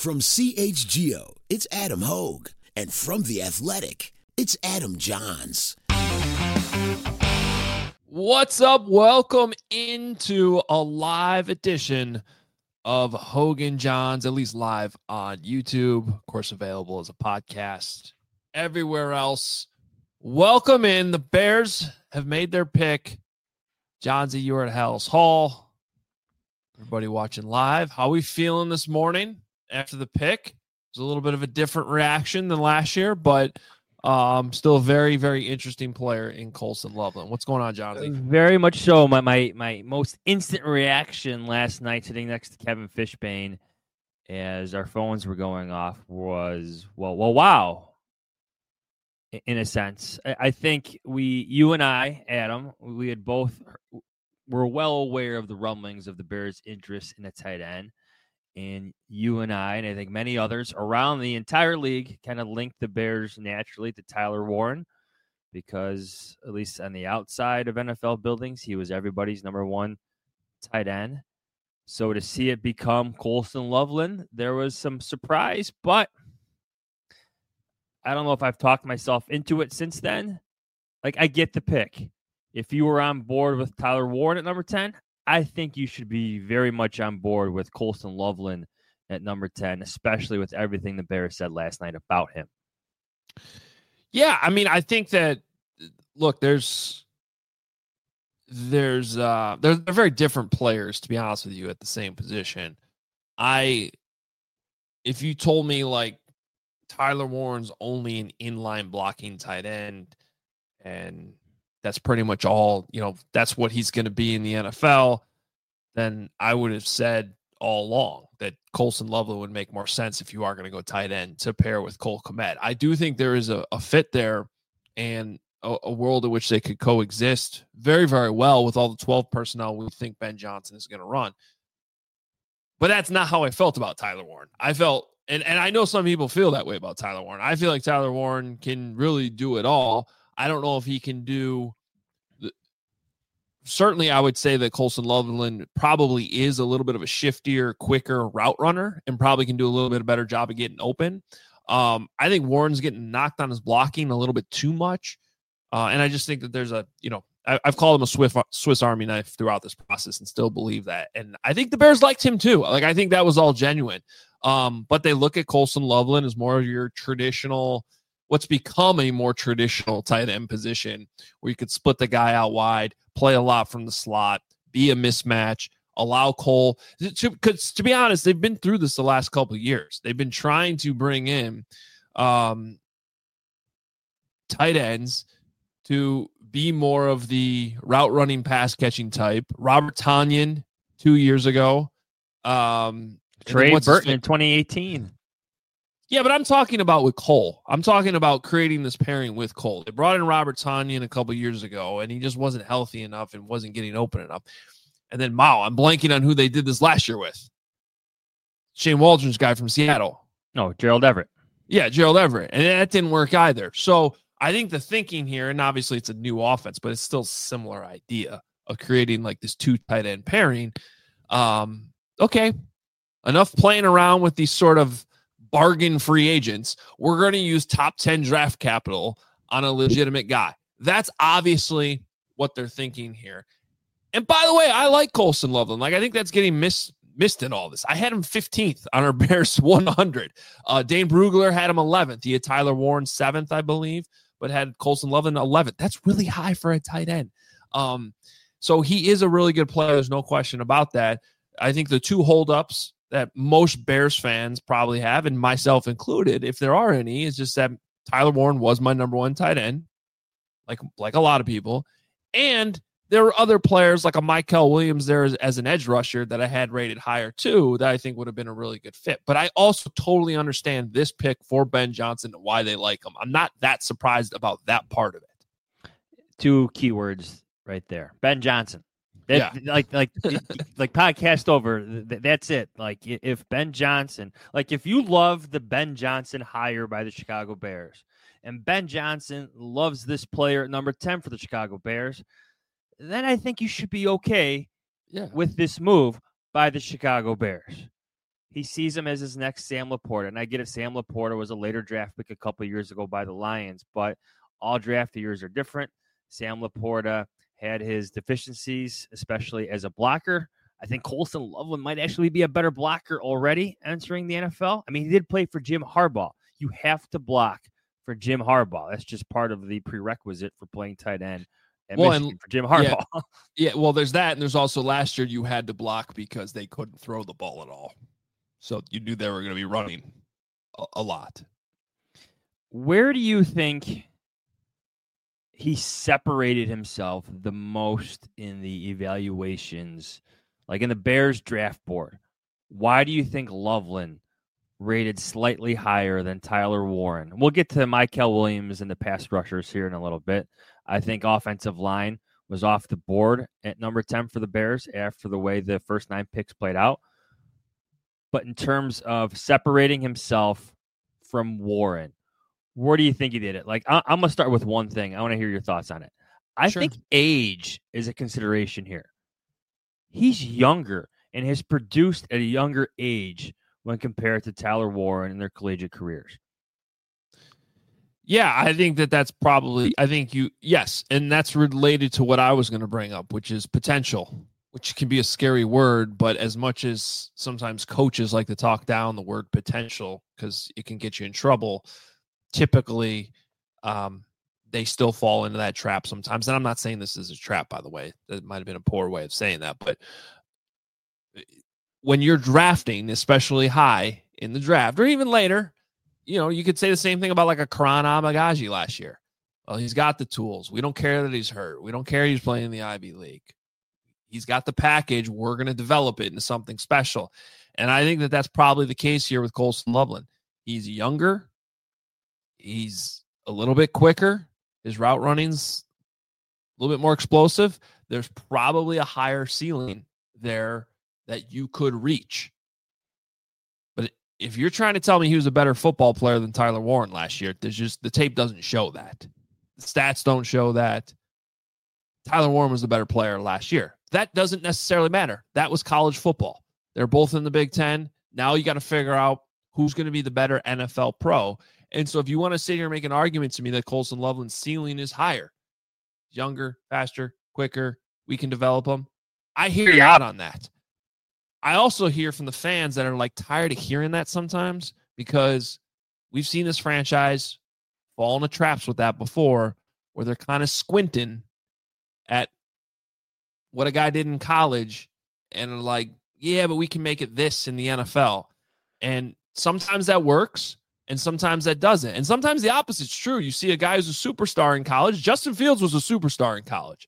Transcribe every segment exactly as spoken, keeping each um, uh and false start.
From C H G O, it's Adam Hogue. And from The Athletic, it's Adam Johns. What's up? Welcome into a live edition of Hogan Johns, at least live on YouTube. Of course, available as a podcast everywhere else. Welcome in. The Bears have made their pick. Johnsy, you're at Hallis Hall. Everybody watching live. How are we feeling this morning after the pick? It was a little bit of a different reaction than last year, but um, still a very, very interesting player in Colston Loveland. What's going on, Johnsy? Very much so. My, my my most instant reaction last night sitting next to Kevin Fishbane as our phones were going off was, well, well, wow. In a sense, I think we, you and I, Adam, we had both were well aware of the rumblings of the Bears' interest in a tight end, and you and I, and I think many others around the entire league, kind of linked the Bears naturally to Tyler Warren, because at least on the outside of N F L buildings, he was everybody's number one tight end. So to see it become Colston Loveland, there was some surprise, but I don't know if I've talked myself into it since then. Like, I get the pick. If you were on board with Tyler Warren at number ten, I think you should be very much on board with Colston Loveland at number ten, especially with everything the Bears said last night about him. Yeah, I mean, I think that, look, there's, there's, uh, they're, they're very different players, to be honest with you, at the same position. I, if you told me, like, Tyler Warren's only an inline blocking tight end, and that's pretty much all, you know, that's what he's going to be in the N F L, then I would have said all along that Colston Loveland would make more sense if you are going to go tight end to pair with Cole Kmet. I do think there is a, a fit there and a, a world in which they could coexist very, very well with all the twelve personnel we think Ben Johnson is going to run. But that's not how I felt about Tyler Warren. I felt, and, and I know some people feel that way about Tyler Warren. I feel like Tyler Warren can really do it all. I don't know if he can do the, certainly I would say that Colston Loveland probably is a little bit of a shiftier, quicker route runner and probably can do a little bit better job of getting open. Um, I think Warren's getting knocked on his blocking a little bit too much. Uh, and I just think that there's a, you know, I, I've called him a Swiss, Swiss Army knife throughout this process and still believe that. And I think the Bears liked him too. Like, I think that was all genuine. Um, but they look at Colston Loveland as more of your traditional, what's become a more traditional tight end position where you could split the guy out wide, play a lot from the slot, be a mismatch, allow Cole. Because to, to be honest, they've been through this the last couple of years. They've been trying to bring in um, tight ends to be more of the route running, pass catching type. Robert Tonyan two years ago. Um, Trey Burton in twenty eighteen. Yeah, but I'm talking about with Cole. I'm talking about creating this pairing with Cole. They brought in Robert Tonyan a couple years ago, and he just wasn't healthy enough and wasn't getting open enough. And then, wow, I'm blanking on who they did this last year with. Shane Waldron's guy from Seattle. No, Gerald Everett. Yeah, Gerald Everett. And that didn't work either. So I think the thinking here, and obviously it's a new offense, but it's still a similar idea of creating like this two tight end pairing. Um, okay. Enough playing around with these sort of bargain free agents. We're going to use top ten draft capital on a legitimate guy. That's obviously what they're thinking here. And by the way, I like Colston Loveland. Like, I think that's getting missed missed in all this. I had him fifteenth on our Bears one hundred. Uh, Dane Brugler had him eleventh. He had Tyler Warren seventh, I believe, but had Colston Loveland eleventh. That's really high for a tight end. Um, so he is a really good player. There's no question about that. I think the two holdups that most Bears fans probably have, and myself included, if there are any, is just that Tyler Warren was my number one tight end, like like a lot of people. And there were other players like a Michael Williams there as, as an edge rusher that I had rated higher too, that I think would have been a really good fit. But I also totally understand this pick for Ben Johnson and why they like him. I'm not that surprised about that part of it. Two keywords right there. Ben Johnson. That, yeah. Like, like, like podcast over. That's it. Like, if Ben Johnson, like, if you love the Ben Johnson hire by the Chicago Bears, and Ben Johnson loves this player at number ten for the Chicago Bears, then I think you should be okay yeah. with this move by the Chicago Bears. he sees him as his next Sam Laporta. And I get it, Sam Laporta was a later draft pick a couple years ago by the Lions, but all draft years are different. Sam Laporta had his deficiencies, especially as a blocker. I think Colston Loveland might actually be a better blocker already entering the N F L. I mean, he did play for Jim Harbaugh. You have to block for Jim Harbaugh. That's just part of the prerequisite for playing tight end at well, Michigan and, for Jim Harbaugh. Yeah, yeah, well, there's that, and there's also last year you had to block because they couldn't throw the ball at all. So you knew they were going to be running a, a lot. Where do you think he separated himself the most in the evaluations, like in the Bears draft board? Why do you think Loveland rated slightly higher than Tyler Warren? We'll get to Mykel Williams and the pass rushers here in a little bit. I think offensive line was off the board at number ten for the Bears after the way the first nine picks played out. But in terms of separating himself from Warren, where do you think he did it? Like, I- I'm going to start with one thing. I want to hear your thoughts on it. I Sure. think age is a consideration here. He's younger and has produced at a younger age when compared to Tyler Warren in their collegiate careers. Yeah, I think that that's probably, I think you, yes, and that's related to what I was going to bring up, which is potential, which can be a scary word, but as much as sometimes coaches like to talk down the word potential because it can get you in trouble, typically um, they still fall into that trap sometimes. And I'm not saying this is a trap, by the way. That might have been a poor way of saying that, but when you're drafting, especially high in the draft or even later, you know, you could say the same thing about like a Karan Amagaji last year. Well, he's got the tools. We don't care that he's hurt. We don't care he's playing in the Ivy League. He's got the package. We're going to develop it into something special. And I think that that's probably the case here with Colston Loveland. He's younger. He's a little bit quicker. His route running's a little bit more explosive. There's probably a higher ceiling there that you could reach. But if you're trying to tell me he was a better football player than Tyler Warren last year, there's just the tape doesn't show that. The stats don't show that. Tyler Warren was the better player last year. That doesn't necessarily matter. That was college football. They're both in the Big Ten. Now you got to figure out who's going to be the better N F L pro. And so if you want to sit here and make an argument to me that Colston Loveland's ceiling is higher, younger, faster, quicker, we can develop them, I hear you out on that. I also hear from the fans that are like tired of hearing that sometimes because we've seen this franchise fall into traps with that before where they're kind of squinting at what a guy did in college and are like, yeah, but we can make it this in the N F L. And sometimes that works and sometimes that doesn't. And sometimes the opposite's true. You see a guy who's a superstar in college. Justin Fields was a superstar in college.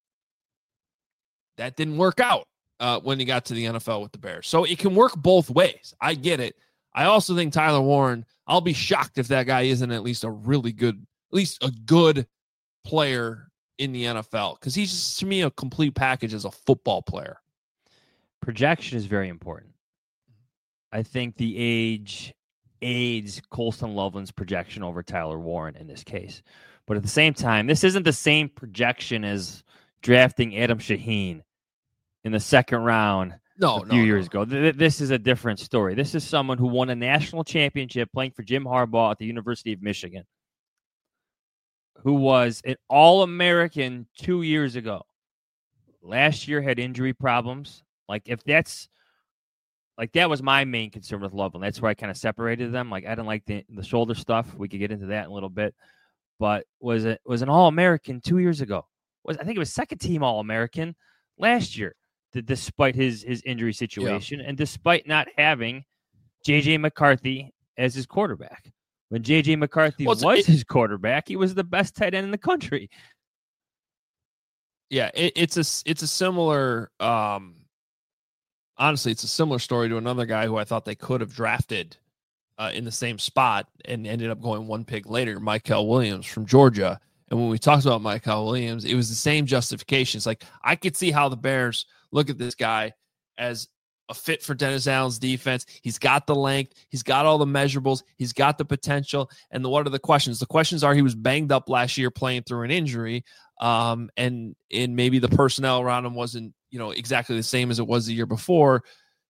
That didn't work out uh, when he got to the N F L with the Bears. So it can work both ways. I get it. I also think Tyler Warren, I'll be shocked if that guy isn't at least a really good, at least a good player in the N F L because he's just, to me, a complete package as a football player. Projection is very important. I think the age aids Colston Loveland's projection over Tyler Warren in this case. But at the same time, this isn't the same projection as drafting Adam Shaheen in the second round no, a few no, years no. ago. This is a different story. This is someone who won a national championship playing for Jim Harbaugh at the University of Michigan, who was an All-American two years ago. Last year had injury problems. Like if that's like that was my main concern with Loveland. That's where I kind of separated them. Like I didn't like the, the shoulder stuff. We could get into that in a little bit. But was it was an All-American two years ago. Was I think it was second team All-American last year, th- despite his his injury situation, yeah. And despite not having J J McCarthy as his quarterback. When J J McCarthy well, was it, his quarterback, he was the best tight end in the country. Yeah, it, it's a it's a similar. Um, honestly, it's a similar story to another guy who I thought they could have drafted uh, in the same spot and ended up going one pick later, Mykel Williams from Georgia. And when we talked about Mykel Williams, it was the same justification. It's like I could see how the Bears look at this guy as a fit for Dennis Allen's defense. He's got the length. He's got all the measurables. He's got the potential. And the, what are the questions? The questions are he was banged up last year playing through an injury. Um, and, and maybe the personnel around him wasn't, you know, exactly the same as it was the year before.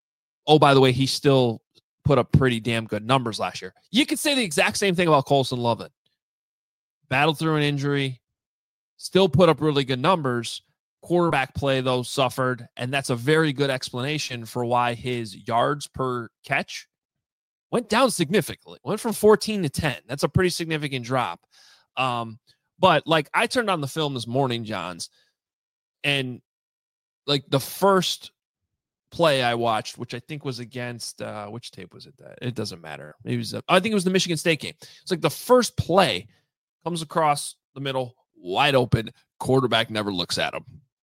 oh, by the way, he still put up pretty damn good numbers last year. You could say the exact same thing about Colston Loveland. Battled through an injury, still put up really good numbers. Quarterback play, though, suffered, and that's a very good explanation for why his yards per catch went down significantly. Went from fourteen to ten. That's a pretty significant drop. Um, but, like, I turned on the film this morning, Johns, and, like, the first play I watched, which I think was against, uh, which tape was it? That It doesn't matter. It was, uh, I think it was the Michigan State game. It's like the first play comes across the middle, wide open, quarterback never looks at him.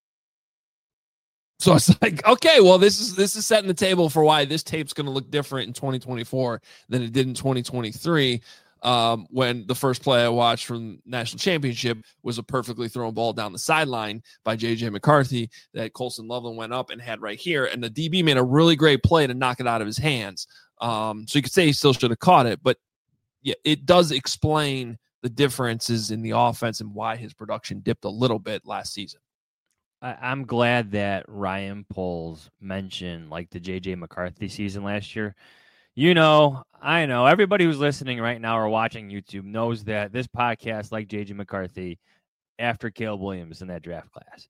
So it's like, okay, well, this is this is setting the table for why this tape's going to look different in twenty twenty-four than it did in twenty twenty-three, um, when the first play I watched from the national championship was a perfectly thrown ball down the sideline by J J McCarthy that Colston Loveland went up and had right here, and the D B made a really great play to knock it out of his hands. Um, so you could say he still should have caught it, but yeah, it does explain the differences in the offense and why his production dipped a little bit last season. I'm glad that Ryan Poles mentioned like the J J McCarthy season last year. You know, I know everybody who's listening right now or watching YouTube knows that this podcast, like J J McCarthy, after Caleb Williams in that draft class.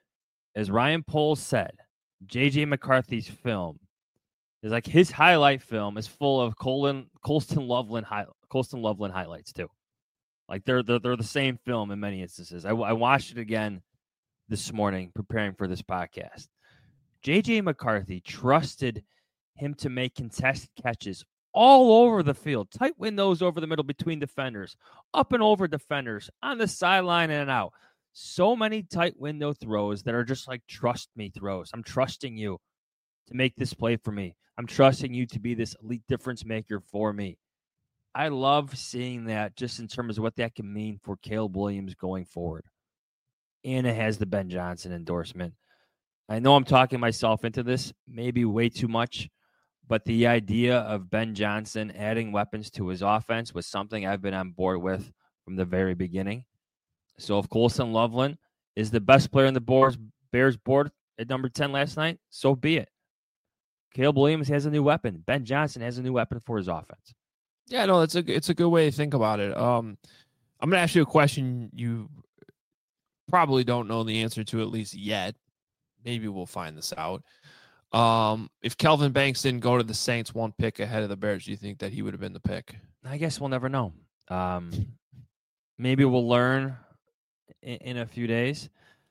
As Ryan Poles said, J J McCarthy's film is like his highlight film is full of Colin, Colston Loveland high, Colston Loveland highlights too. Like they're they're, they're the same film in many instances. I, I watched it again this morning preparing for this podcast. J J McCarthy trusted him to make contested catches all over the field, tight windows over the middle between defenders, up and over defenders, on the sideline and out. So many tight window throws that are just like trust me throws. I'm trusting you to make this play for me. I'm trusting you to be this elite difference maker for me. I love seeing that just in terms of what that can mean for Caleb Williams going forward. And it has the Ben Johnson endorsement. I know I'm talking myself into this, maybe way too much, but the idea of Ben Johnson adding weapons to his offense was something I've been on board with from the very beginning. So if Colston Loveland is the best player on the Bears board at number ten last night, so be it. Caleb Williams has a new weapon. Ben Johnson has a new weapon for his offense. Yeah, no, it's a it's a good way to think about it. Um, I'm going to ask you a question you probably don't know the answer to, at least yet. Maybe we'll find this out. Um, if Kelvin Banks didn't go to the Saints one pick ahead of the Bears, do you think that he would have been the pick? I guess we'll never know. Um, maybe we'll learn in, in a few days.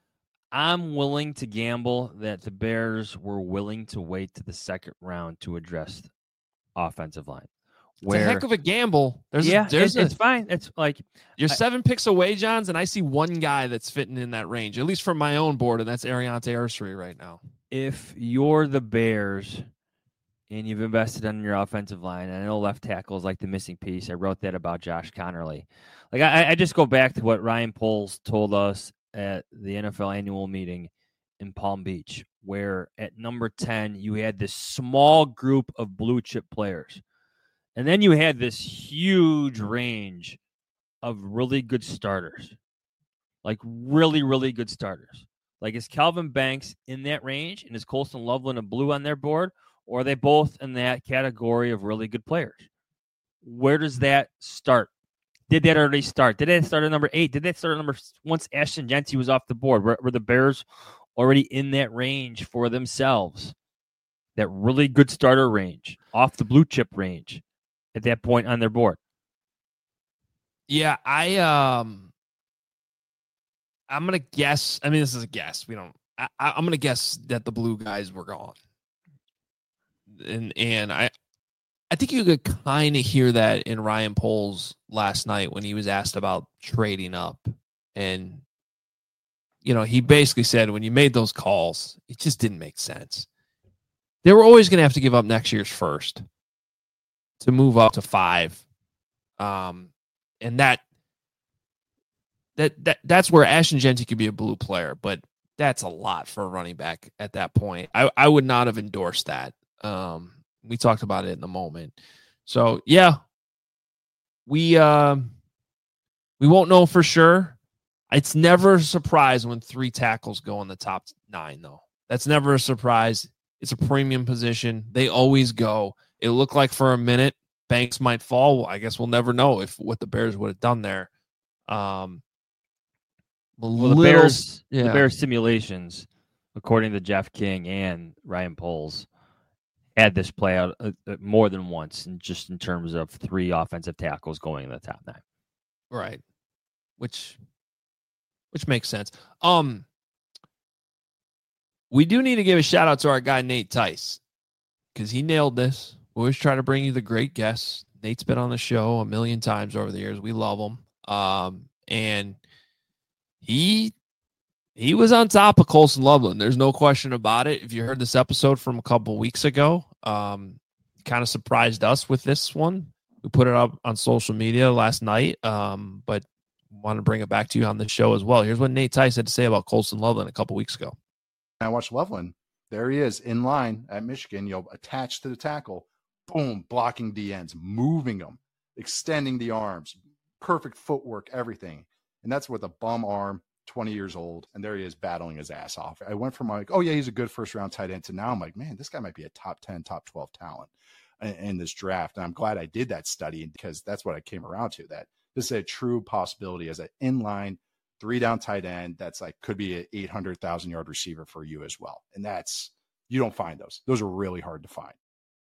I'm willing to gamble that the Bears were willing to wait to the second round to address offensive line. Where, it's a heck of a gamble. There's yeah, a, there's it's, a, it's fine. It's like you're I, seven picks away, Johns, and I see one guy that's fitting in that range, at least from my own board, and that's Ariante Ursery right now. If you're the Bears and you've invested in your offensive line, and I know left tackle is like the missing piece. I wrote that about Josh Connerly. Like I, I just go back to what Ryan Poles told us at the N F L annual meeting in Palm Beach, where at number ten you had this small group of blue chip players. And then you had this huge range of really good starters, like really, really good starters. Like, is Kelvin Banks in that range, and is Colston Loveland a blue on their board, or are they both in that category of really good players? Where does that start? Did that already start? Did that start at number eight? Did that start at number once Ashton Jeanty was off the board? Were, were the Bears already in that range for themselves? That really good starter range, off the blue chip range at that point on their board? Yeah, I um I'm gonna guess. I mean, this is a guess. We don't I, I'm gonna guess that the blue guys were gone. And and I I think you could kind of hear that in Ryan Poles last night when he was asked about trading up. And you know, he basically said when you made those calls, it just didn't make sense. They were always gonna have to give up next year's first to move up to five. Um, and that, that, that, that's where Ashton Jeanty could be a blue player, but that's a lot for a running back at that point. I, I would not have endorsed that. Um, we talked about it in the moment. So yeah, we, um, uh, we won't know for sure. It's never a surprise when three tackles go in the top nine though. That's never a surprise. It's a premium position. They always go. It looked like for a minute Banks might fall. I guess we'll never know if what the Bears would have done there. Um, well, little, the Bears, yeah. the Bears simulations, according to Jeff King and Ryan Poles, had this play out uh, more than once, and just in terms of three offensive tackles going in the top nine. Right, which which makes sense. Um, we do need to give a shout out to our guy Nate Tice because he nailed this. We always try to bring you the great guests. Nate's been on the show a million times over the years. We love him, um, and he he was on top of Colson Loveland. There's no question about it. If you heard this episode from a couple weeks ago, um, kind of surprised us with this one. We put it up on social media last night, um, but want to bring it back to you on the show as well. Here's what Nate Tice had to say about Colson Loveland a couple weeks ago. I watched Loveland. There he is in line at Michigan, you know, attached to the tackle, boom, blocking D Ns, moving them, extending the arms, perfect footwork, everything. And that's with a bum arm, twenty years old. And there he is battling his ass off. I went from like, oh yeah, he's a good first round tight end to now I'm like, man, this guy might be a top ten, top twelve talent in, in this draft. And I'm glad I did that study because that's what I came around to, that this is a true possibility as an inline three down tight end. That's like, could be an eight hundred thousand yard receiver for you as well. And that's, you don't find those. Those are really hard to find.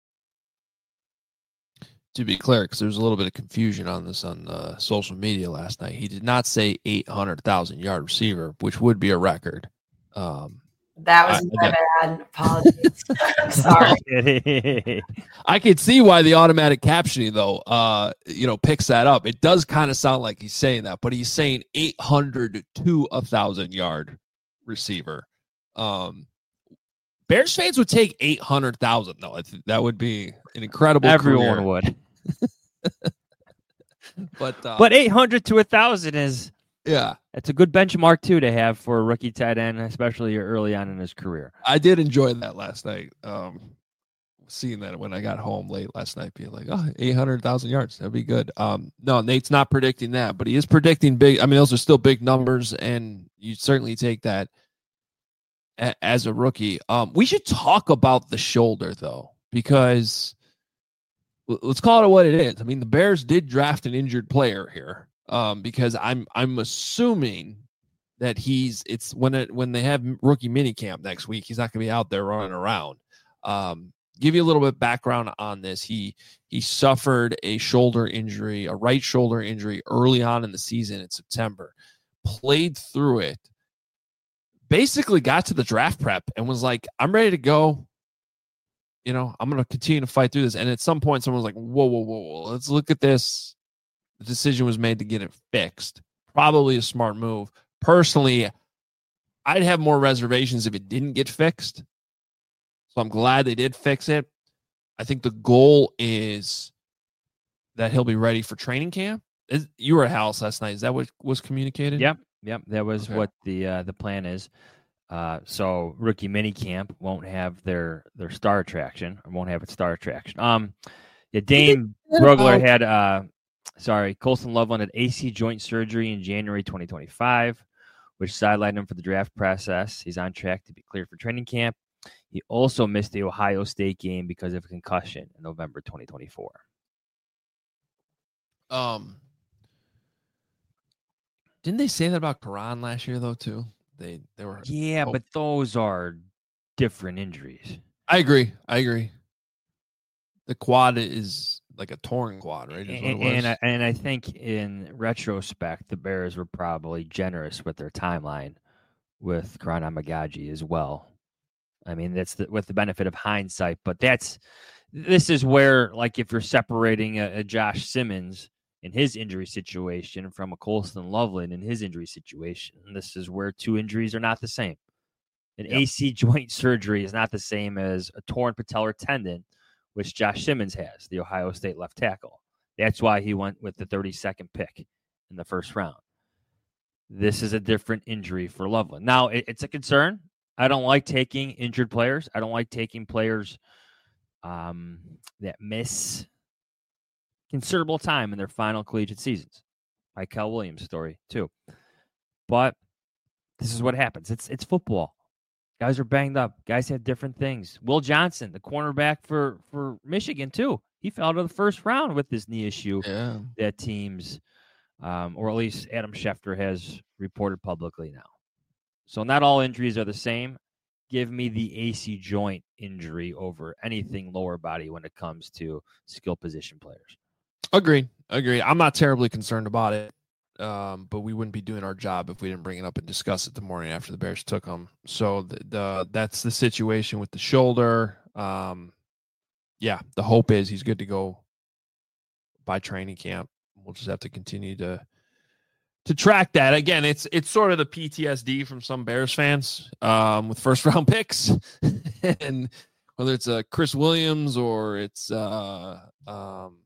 To be clear, because there's a little bit of confusion on this on uh, social media last night. He did not say eight hundred thousand yard receiver, which would be a record. Um, that was I, my I, bad. Apologies. I'm sorry. I could see why the automatic captioning, though, uh, you know, picks that up. It does kind of sound like he's saying that, but he's saying eight hundred to one thousand yard receiver. Um, Bears fans would take eight hundred thousand, though. I think that would be an incredible Everyone career. would. but uh, but eight hundred to one thousand is, yeah, it's a good benchmark, too, to have for a rookie tight end, especially early on in his career. I did enjoy that last night. Um, seeing that when I got home late last night, being like, oh, eight hundred thousand yards. That'd be good. Um, no, Nate's not predicting that, but he is predicting big. I mean, those are still big numbers, and you certainly take that a- as a rookie. Um, we should talk about the shoulder, though, because let's call it what it is. I mean, the Bears did draft an injured player here, um, because I'm I'm assuming that he's it's when it when they have rookie minicamp next week, he's not going to be out there running around. Um, give you a little bit of background on this. He he suffered a shoulder injury, a right shoulder injury early on in the season in September, played through it, basically got to the draft prep and was like, I'm ready to go. You know, I'm going to continue to fight through this. And at some point, someone was like, whoa, whoa, whoa, whoa, let's look at this. The decision was made to get it fixed. Probably a smart move. Personally, I'd have more reservations if it didn't get fixed. So I'm glad they did fix it. I think the goal is that he'll be ready for training camp. Is, you were at House last night. Is that what was communicated? Yep. Yep. That was Okay. what the uh, the plan is. Uh, so rookie mini camp won't have their their star attraction, or won't have its star attraction. Um, yeah, Dane Brogler had uh, sorry, Colson Loveland had A C joint surgery in January twenty twenty-five, which sidelined him for the draft process. He's on track to be cleared for training camp. He also missed the Ohio State game because of a concussion in November twenty twenty-four. Um, didn't they say that about Karan last year though too? They they were Yeah, oh. but those are different injuries. I agree. I agree. The quad is like a torn quad, right? Is what it And, was. and, I, and I think in retrospect, the Bears were probably generous with their timeline with Karan Amagaji as well. I mean, that's the, with the benefit of hindsight, but that's this is where, like, if you're separating a, a Josh Simmons in his injury situation from a Colson Loveland in his injury situation, this is where two injuries are not the same. An yep. A C joint surgery is not the same as a torn patellar tendon, which Josh Simmons has, the Ohio State left tackle. That's why he went with the thirty-second pick in the first round. This is a different injury for Loveland. Now, it, it's a concern. I don't like taking injured players. I don't like taking players um, that miss considerable time in their final collegiate seasons. Michael Williams' story, too. But this is what happens. It's it's football. Guys are banged up. Guys have different things. Will Johnson, the cornerback for, for Michigan, too. He fell out of the first round with this knee issue Yeah. that teams, um, or at least Adam Schefter has reported publicly now. So not all injuries are the same. Give me the A C joint injury over anything lower body when it comes to skill position players. Agreed. Agreed. I'm not terribly concerned about it. Um, but we wouldn't be doing our job if we didn't bring it up and discuss it the morning after the Bears took them. So the, the that's the situation with the shoulder. Um, yeah, the hope is he's good to go by training camp. We'll just have to continue to to track that. Again, it's it's sort of the P T S D from some Bears fans um, with first round picks, and whether it's a Chris Williams or it's uh, um,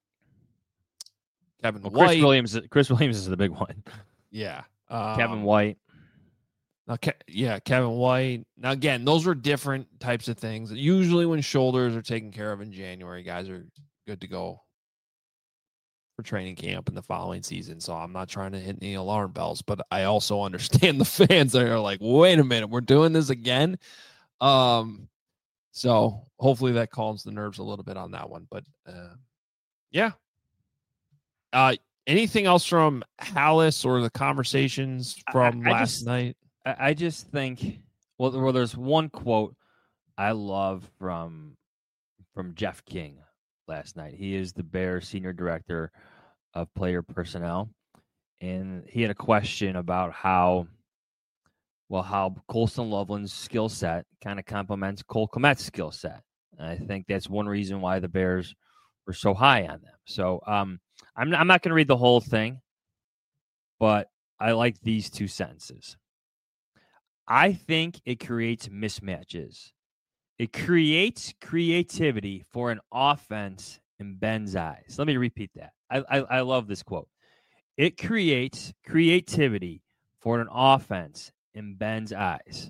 Kevin well, White. Chris Williams. Chris Williams is the big one. Yeah. Um, Kevin White. Now, Ke- yeah, Kevin White. Now, again, those are different types of things. Usually when shoulders are taken care of in January, guys are good to go for training camp in the following season. So I'm not trying to hit any alarm bells, but I also understand the fans that are like, wait a minute, we're doing this again. Um, so hopefully that calms the nerves a little bit on that one. But uh, yeah. Uh, anything else from Halas or the conversations from I, I last just, night? I, I just think, well, well, there's one quote I love from from Jeff King last night. He is the Bears senior director of player personnel, and he had a question about how, well, how Colston Loveland's skill set kind of complements Cole Kmet's skill set. And I think that's one reason why the Bears were so high on them. So um, I'm not, I'm not going to read the whole thing, but I like these two sentences. I think it creates mismatches. It creates creativity for an offense in Ben's eyes. Let me repeat that. I, I, I love this quote. It creates creativity for an offense in Ben's eyes.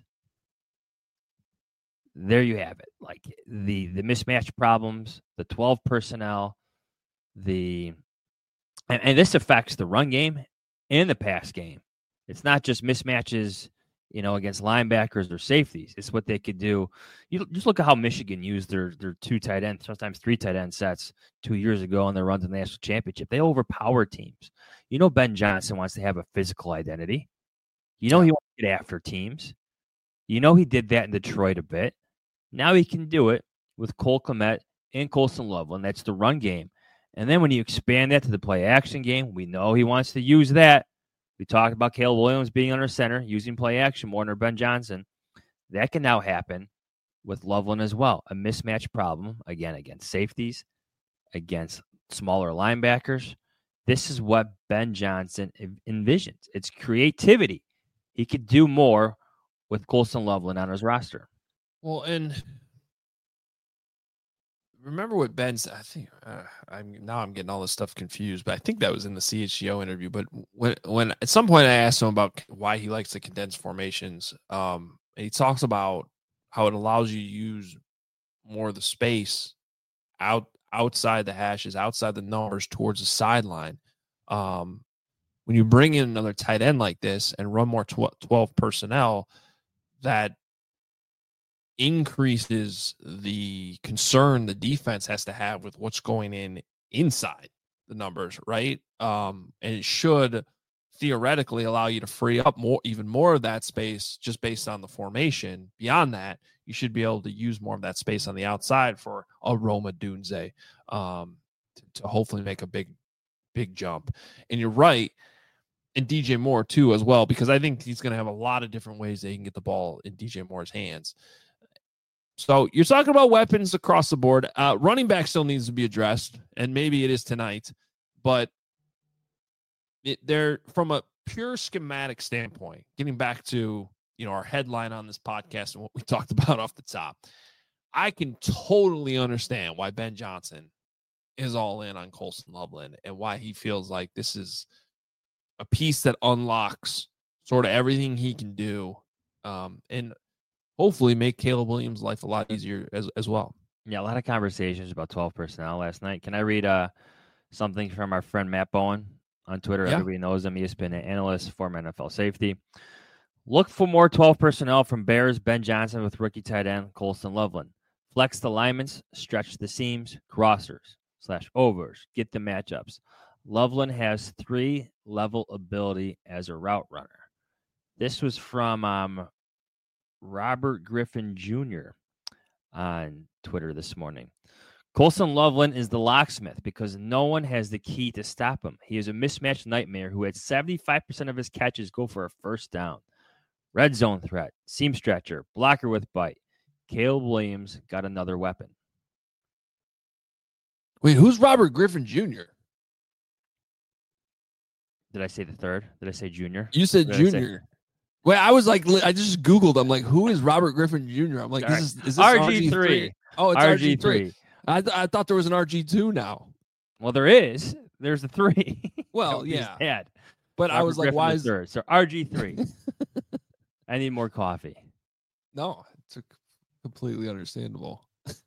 There you have it. Like the the mismatch problems, the twelve personnel, the and, and this affects the run game and the pass game. It's not just mismatches, you know, against linebackers or safeties. It's what they could do. You just look at how Michigan used their their two tight end, sometimes three tight end sets two years ago on their run to the national championship. They overpower teams. You know, Ben Johnson wants to have a physical identity. You know, he wants to get after teams. You know, he did that in Detroit a bit. Now he can do it with Cole Kmet and Colston Loveland. That's the run game. And then when you expand that to the play action game, we know he wants to use that. We talked about Caleb Williams being under center, using play action more under Ben Johnson. That can now happen with Loveland as well. A mismatch problem, again, against safeties, against smaller linebackers. This is what Ben Johnson envisions. It's creativity. He could do more with Colston Loveland on his roster. Well, and remember what Ben said. I think uh, I'm now I'm getting all this stuff confused, but I think that was in the C H G O interview. But when when at some point I asked him about why he likes the condensed formations, um, and he talks about how it allows you to use more of the space out outside the hashes, outside the numbers, towards the sideline. Um, when you bring in another tight end like this and run more tw- twelve personnel, that increases the concern the defense has to have with what's going in inside the numbers, right? Um, and it should theoretically allow you to free up more, even more of that space just based on the formation. Beyond that, you should be able to use more of that space on the outside for a Roma Dunze um, to, to hopefully make a big, big jump. And you're right. And D J Moore too, as well, because I think he's going to have a lot of different ways that he can get the ball in D J Moore's hands. So you're talking about weapons across the board. Uh, running back still needs to be addressed, and maybe it is tonight. But it, they're from a pure schematic standpoint, getting back to you know our headline on this podcast and what we talked about off the top, I can totally understand why Ben Johnson is all in on Colston Loveland and why he feels like this is a piece that unlocks sort of everything he can do. Um, and hopefully make Caleb Williams' life a lot easier as, as well. Yeah, a lot of conversations about twelve personnel last night. Can I read uh, something from our friend Matt Bowen on Twitter? Yeah. Everybody knows him. He has been an analyst, former N F L safety. Look for more twelve personnel from Bears, Ben Johnson with rookie tight end Colston Loveland. Flex the linemen, stretch the seams, crossers slash overs, get the matchups. Loveland has three level ability as a route runner. This was from um, Robert Griffin Junior on Twitter this morning. Colston Loveland is the locksmith because no one has the key to stop him. He is a mismatch nightmare who had seventy-five percent of his catches go for a first down. Red zone threat, seam stretcher, blocker with bite. Caleb Williams got another weapon. Wait, who's Robert Griffin Junior? Did I say the third? Did I say junior? You said What did I say? Junior. Wait, I was like, li- I just Googled. I'm like, who is Robert Griffin Junior? I'm like, this is, is this R R G G three. three? Oh, it's R G R G three. three. I, th- I thought there was an R G two now. Well, there is. There's a three. Well, that we just yeah. had. But I Robert was like, Griffin why the is third. So R G three. I need more coffee. No, it's a completely understandable.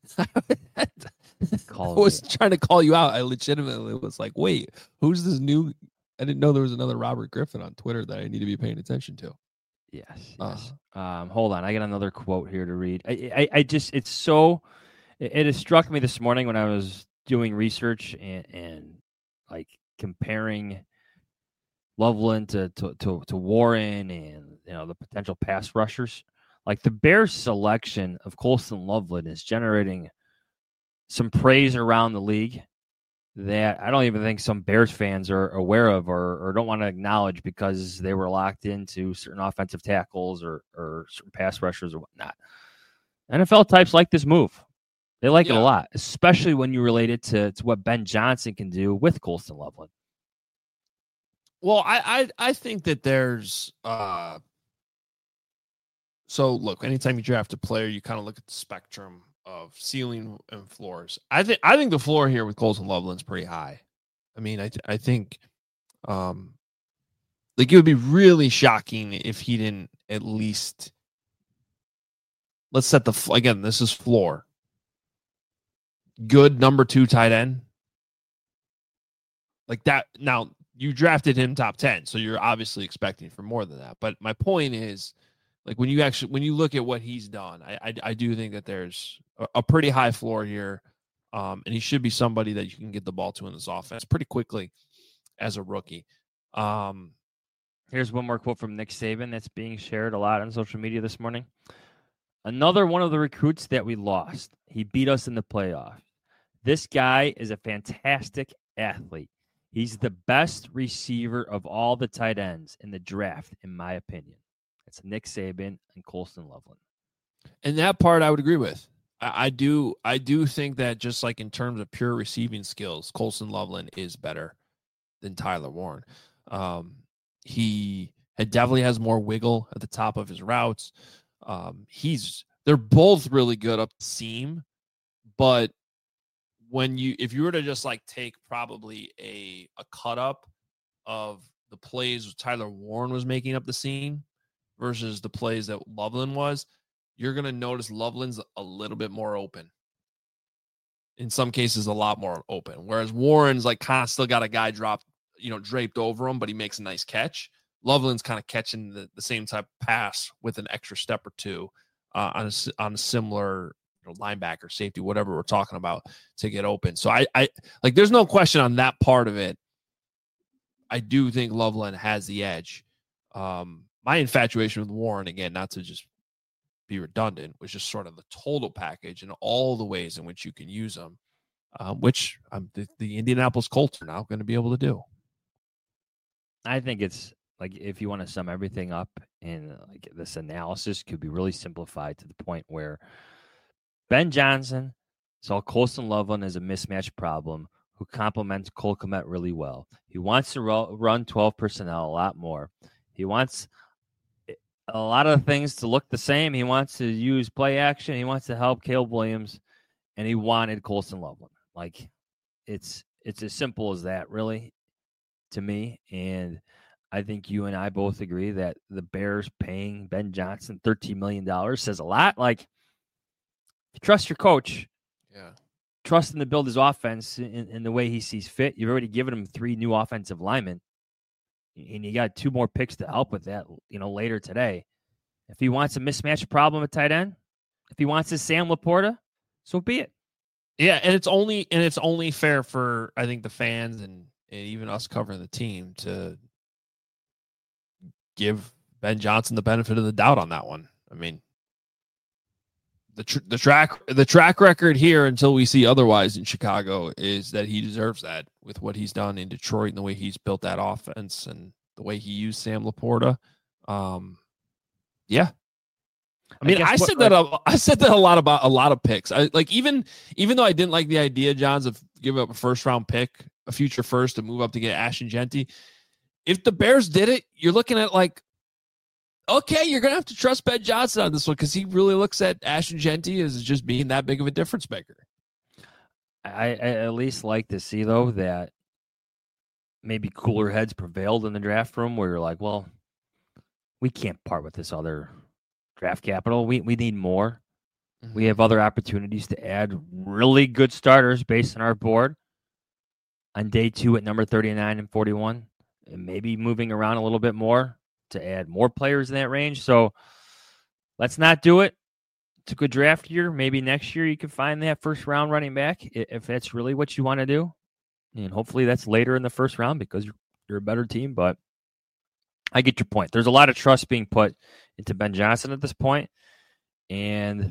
Call I was me. trying to call you out. I legitimately was like, wait, who's this new? I didn't know there was another Robert Griffin on Twitter that I need to be paying attention to. Yes. Uh. yes. Um, hold on. I got another quote here to read. I, I, I just, it's so, it, it has struck me this morning when I was doing research and, and like comparing Loveland to, to, to, to Warren and, you know, the potential pass rushers. Like the Bears selection of Colston Loveland is generating some praise around the league that I don't even think some Bears fans are aware of or, or don't want to acknowledge because they were locked into certain offensive tackles or, or certain pass rushers or whatnot. N F L types like this move. They like Yeah. it a lot, especially when you relate it to, to what Ben Johnson can do with Colston Loveland. Well, I, I I think that there's uh so look, anytime you draft a player, you kind of look at the spectrum of ceiling and floors. I think I think the floor here with Colston Loveland's pretty high. I mean, I th- I think um like it would be really shocking if he didn't at least let's set the f- again, this is floor. Good number two tight end. Like that now you drafted him top ten, so you're obviously expecting for more than that. But my point is, like when you actually when you look at what he's done, I I, I do think that there's a, a pretty high floor here, um, and he should be somebody that you can get the ball to in this offense pretty quickly as a rookie. Um, Here's one more quote from Nick Saban that's being shared a lot on social media this morning. Another one of the recruits that we lost. He beat us in the playoff. This guy is a fantastic athlete. He's the best receiver of all the tight ends in the draft, in my opinion. It's Nick Saban and Colston Loveland. And that part I would agree with. I, I do I do think that just like in terms of pure receiving skills, Colston Loveland is better than Tyler Warren. Um, he had definitely has more wiggle at the top of his routes. Um, he's they're both really good up the seam, but when you if you were to just like take probably a a cut up of the plays Tyler Warren was making up the seam versus the plays that Loveland was, you're going to notice Loveland's a little bit more open. In some cases, a lot more open. Whereas Warren's like kind of still got a guy dropped, you know, draped over him, but he makes a nice catch. Loveland's kind of catching the, the same type of pass with an extra step or two uh, on, a, on a similar you know, linebacker, safety, whatever we're talking about to get open. So I, I like, there's no question on that part of it. I do think Loveland has the edge. Um, my infatuation with Warren, again, not to just be redundant, was just sort of the total package and all the ways in which you can use them, um, which um, the, the Indianapolis Colts are now going to be able to do. I think it's like if you want to sum everything up and like this analysis could be really simplified to the point where Ben Johnson saw Colston Loveland as a mismatch problem who complements Cole Kmet really well. He wants to ro- run twelve personnel a lot more. He wants a lot of things to look the same. He wants to use play action. He wants to help Caleb Williams, and he wanted Colston Loveland. Like it's it's as simple as that, really, to me. And I think you and I both agree that the Bears paying Ben Johnson thirteen million dollars says a lot. Like, if you trust your coach, yeah, trust him to build his offense in, in the way he sees fit. You've already given him three new offensive linemen. and you got two more picks to help with that, you know, later today. If he wants a mismatch problem at tight end, if he wants his Sam Laporta, so be it. Yeah, and it's only and it's only fair for I think the fans and, and even us covering the team to give Ben Johnson the benefit of the doubt on that one. I mean, the tr- the track the track record here until we see otherwise in Chicago is that he deserves that with what he's done in Detroit and the way he's built that offense and the way he used Sam Laporta. Um, yeah. I mean, I, I said what, that a, I said that a lot about a lot of picks. I like even even though I didn't like the idea, Johns, of giving up a first round pick, a future first, to move up to get Ashton Genty. If the Bears did it, you're looking at like, okay, you're gonna have to trust Ben Johnson on this one because he really looks at Ashton Genty as just being that big of a difference maker. I, I at least like to see though that maybe cooler heads prevailed in the draft room where you're like, well, we can't part with this other draft capital. We we need more. Mm-hmm. We have other opportunities to add really good starters based on our board on day two at number thirty-nine and forty-one, and maybe moving around a little bit more to add more players in that range. So let's not do it. It's a good draft year. Maybe next year you can find that first round running back if that's really what you want to do. And hopefully that's later in the first round because you're, you're a better team. But I get your point. There's a lot of trust being put into Ben Johnson at this point. And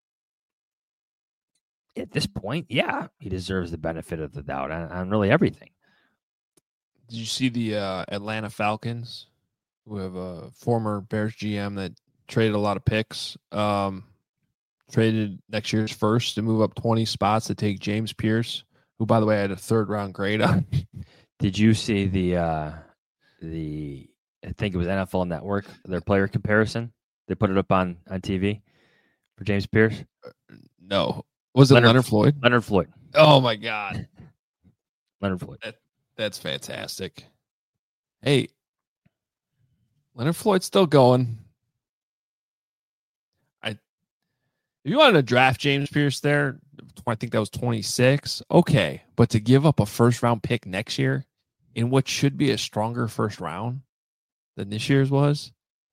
at this point, yeah, he deserves the benefit of the doubt on, on really everything. Did you see the uh, Atlanta Falcons, who have a former Bears G M that traded a lot of picks, um, traded next year's first to move up twenty spots to take James Pierce, who, by the way, had a third round grade on. Did you see the uh, the I think it was N F L Network, their player comparison? They put it up on, on T V for James Pierce? No. Was it Leonard, Leonard Floyd? Leonard Floyd. Oh, my God. Leonard Floyd. That, that's fantastic. Hey, Leonard Floyd's still going. I, if you wanted to draft James Pierce there, I think that was twenty-six. Okay, but to give up a first-round pick next year in what should be a stronger first round than this year's was,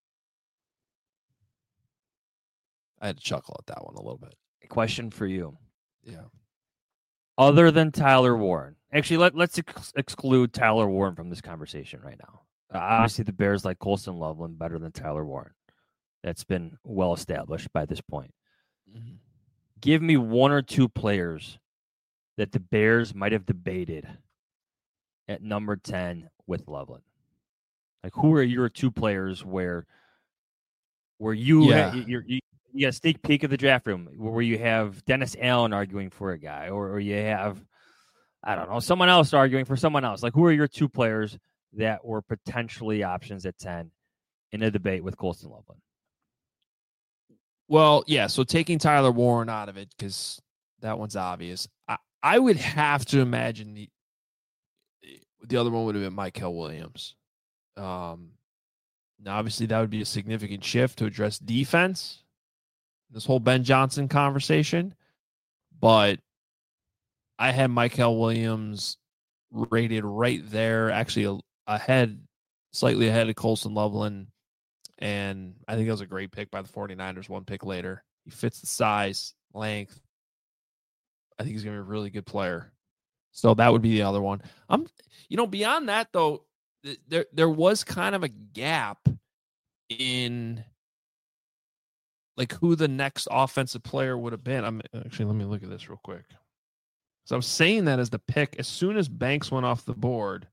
I had to chuckle at that one a little bit. A question for you. Yeah. Other than Tyler Warren, actually, let, let's ex- exclude Tyler Warren from this conversation right now. Uh, obviously, the Bears like Colston Loveland better than Tyler Warren. That's been well established by this point. Mm-hmm. Give me one or two players that the Bears might have debated at number ten with Loveland. Like, who are your two players where where you yeah. ha- you're, you you got a sneak peek of the draft room where you have Dennis Allen arguing for a guy, or, or you have, I don't know, someone else arguing for someone else. Like, who are your two players that were potentially options at ten in a debate with Colston Loveland? Well, yeah, so taking Tyler Warren out of it, because that one's obvious. I, I would have to imagine the the other one would have been Mykel Williams. Um, now, obviously, that would be a significant shift to address defense, this whole Ben Johnson conversation. But I had Mykel Williams rated right there, actually ahead, slightly ahead of Colston Loveland. And I think that was a great pick by the 49ers, one pick later. He fits the size, length. I think he's going to be a really good player. So that would be the other one. I'm, you know, beyond that, though, th- there there was kind of a gap in like who the next offensive player would have been. I'm actually, let me look at this real quick. So I was saying that as the pick, as soon as Banks went off the board,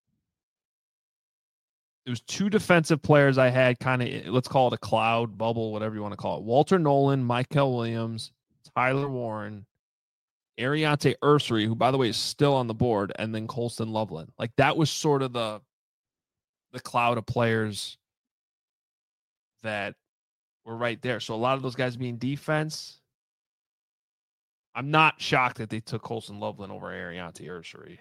there was two defensive players I had kind of, let's call it a cloud bubble, whatever you want to call it. Walter Nolan, Mykel Williams, Tyler Warren, Ariante Ursery, who, by the way, is still on the board, and then Colston Loveland. Like, that was sort of the the cloud of players that were right there. So a lot of those guys being defense, I'm not shocked that they took Colston Loveland over Ariante Ursery.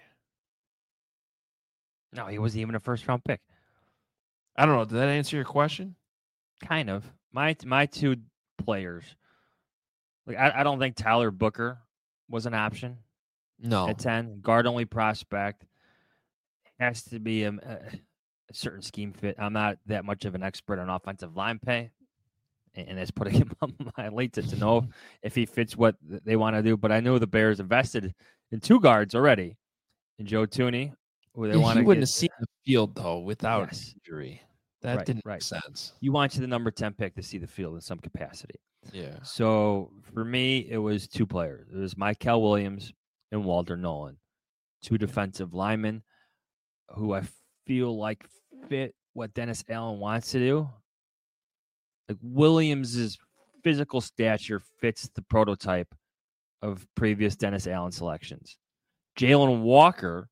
No, he wasn't even a first-round pick. I don't know. Did that answer your question? Kind of. My my two players. Like I, I don't think Tyler Booker was an option. No. At ten, guard only prospect. Has to be a, a certain scheme fit. I'm not that much of an expert on offensive line pay, and, and that's putting him on my late to, to know if he fits what they want to do. But I know the Bears invested in two guards already, in Joe Thuney, who they Yeah, want he to wouldn't get. have seen the field though without Yes. injury. That Right, didn't right. make sense. You want you the number ten pick to see the field in some capacity. Yeah. So for me, it was two players. It was Michael Williams and Walter Nolan, two defensive linemen who I feel like fit what Dennis Allen wants to do. Like Williams's physical stature fits the prototype of previous Dennis Allen selections. Jalen Walker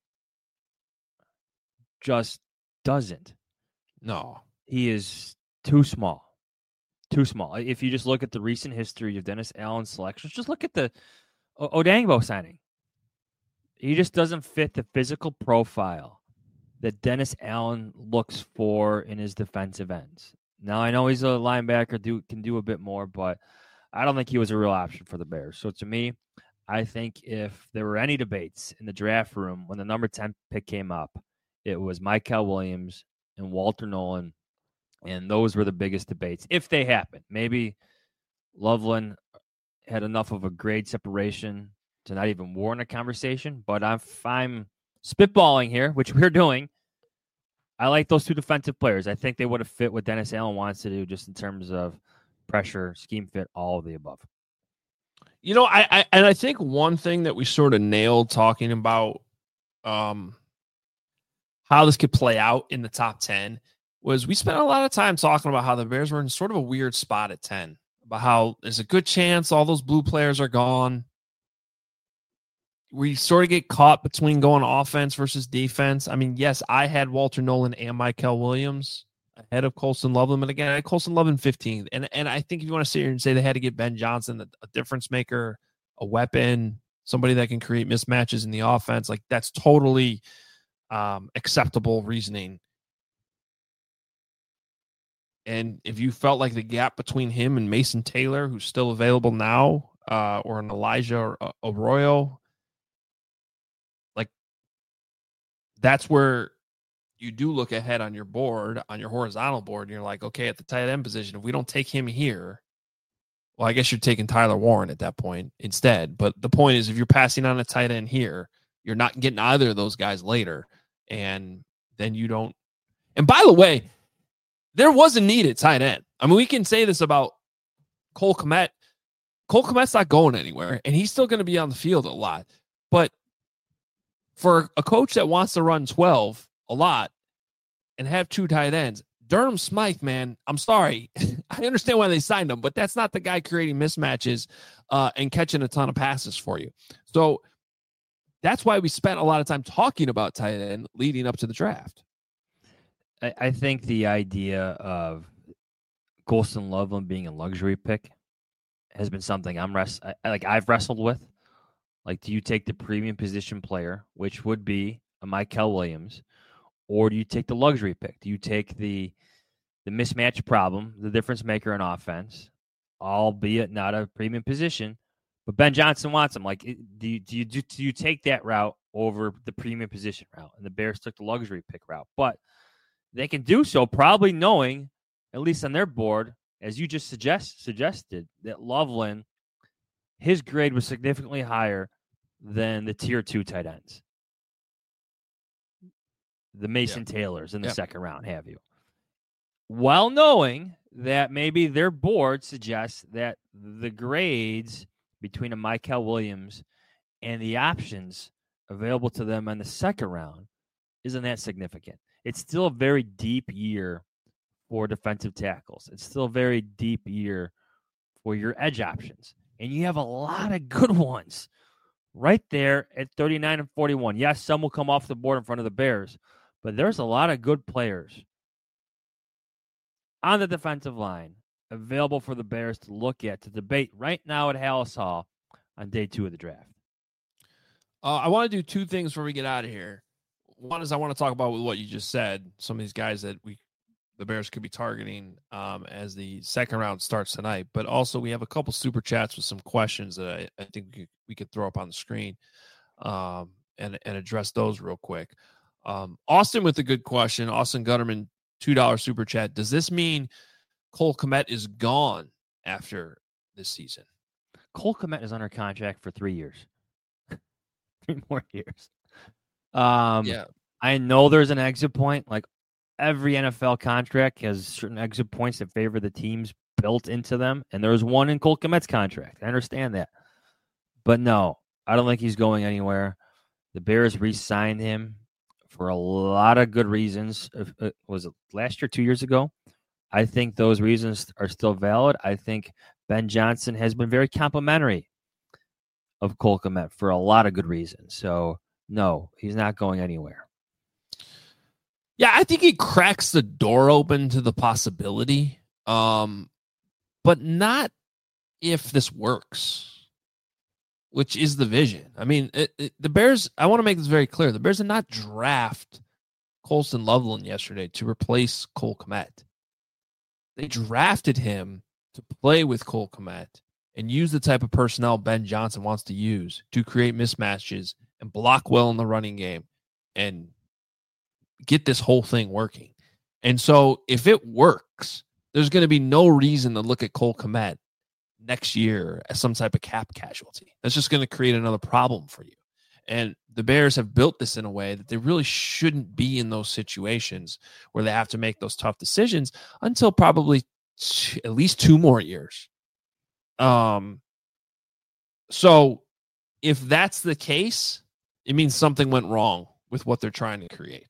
just doesn't. No. He is too small. Too small. If you just look at the recent history of Dennis Allen's selections, just look at the o- Odangbo signing. He just doesn't fit the physical profile that Dennis Allen looks for in his defensive ends. Now, I know he's a linebacker, do can do a bit more, but I don't think he was a real option for the Bears. So to me, I think if there were any debates in the draft room when the number ten pick came up, it was Michael Williams and Walter Nolan, and those were the biggest debates, if they happened. Maybe Loveland had enough of a grade separation to not even warrant a conversation, but if I'm spitballing here, which we're doing, I like those two defensive players. I think they would have fit what Dennis Allen wants to do just in terms of pressure, scheme fit, all of the above. You know, I, I and I think one thing that we sort of nailed talking about um, how this could play out in the top ten was we spent a lot of time talking about how the Bears were in sort of a weird spot at ten, about how there's a good chance all those blue players are gone. We sort of get caught between going offense versus defense. I mean, yes, I had Walter Nolan and Michael Williams ahead of Colston Loveland, but again, I had Colston Loveland fifteenth. And and I think if you want to sit here and say they had to get Ben Johnson, a, a difference maker, a weapon, somebody that can create mismatches in the offense, like that's totally um, acceptable reasoning. And if you felt like the gap between him and Mason Taylor, who's still available now, uh, or an Elijah or uh, Arroyo, like that's where you do look ahead on your board, on your horizontal board, and you're like, okay, at the tight end position, if we don't take him here, well, I guess you're taking Tyler Warren at that point instead. But the point is, if you're passing on a tight end here, you're not getting either of those guys later. And then you don't. And by the way, there was a need at tight end. I mean, we can say this about Cole Kmet. Cole Kmet's not going anywhere, and he's still going to be on the field a lot. But for a coach that wants to run twelve a lot and have two tight ends, Durham Smythe, man, I'm sorry. I understand why they signed him, but that's not the guy creating mismatches uh, and catching a ton of passes for you. So that's why we spent a lot of time talking about tight end leading up to the draft. I, I think the idea of Colston Loveland being a luxury pick has been something I'm rest I, like I've wrestled with. Like, do you take the premium position player, which would be a Michael Williams, or do you take the luxury pick? Do you take the the mismatch problem, the difference maker in offense, albeit not a premium position, but Ben Johnson wants him? Like, do you do you do, do you take that route over the premium position route? And the Bears took the luxury pick route, but they can do so probably knowing, at least on their board, as you just suggest suggested, that Loveland, his grade was significantly higher than the tier two tight ends. The Mason Yeah. Taylors in the Yeah. second round, have you? While knowing that maybe their board suggests that the grades between a Michael Williams and the options available to them in the second round isn't that significant. It's still a very deep year for defensive tackles. It's still a very deep year for your edge options. And you have a lot of good ones right there at thirty-nine and forty-one. Yes, some will come off the board in front of the Bears, but there's a lot of good players on the defensive line available for the Bears to look at, to debate right now at Hallis Hall on day two of the draft. Uh, I want to do two things before we get out of here. One is I want to talk about what you just said, some of these guys that we the Bears could be targeting um, as the second round starts tonight. But also we have a couple super chats with some questions that I, I think we could, we could throw up on the screen um, and, and address those real quick. Um, Austin with a good question. Austin Gutterman, two dollars super chat. Does this mean Cole Kmet is gone after this season? Cole Kmet is under contract for three years. three more years. Um, yeah. I know there's an exit point. Like every N F L contract has certain exit points that favor the teams built into them. And there's one in Cole Kmet's contract. I understand that. But no, I don't think he's going anywhere. The Bears re-signed him for a lot of good reasons. Uh, was it last year, two years ago? I think those reasons are still valid. I think Ben Johnson has been very complimentary of Cole Kmet for a lot of good reasons. So, no, he's not going anywhere. Yeah, I think he cracks the door open to the possibility, um, but not if this works, which is the vision. I mean, it, it, the Bears, I want to make this very clear. The Bears did not draft Colston Loveland yesterday to replace Cole Kmet. They drafted him to play with Cole Kmet and use the type of personnel Ben Johnson wants to use to create mismatches and block well in the running game and get this whole thing working. And so if it works, there's going to be no reason to look at Cole Kmet next year as some type of cap casualty. That's just going to create another problem for you. And the Bears have built this in a way that they really shouldn't be in those situations where they have to make those tough decisions until probably t- at least two more years. Um, so if that's the case, it means something went wrong with what they're trying to create.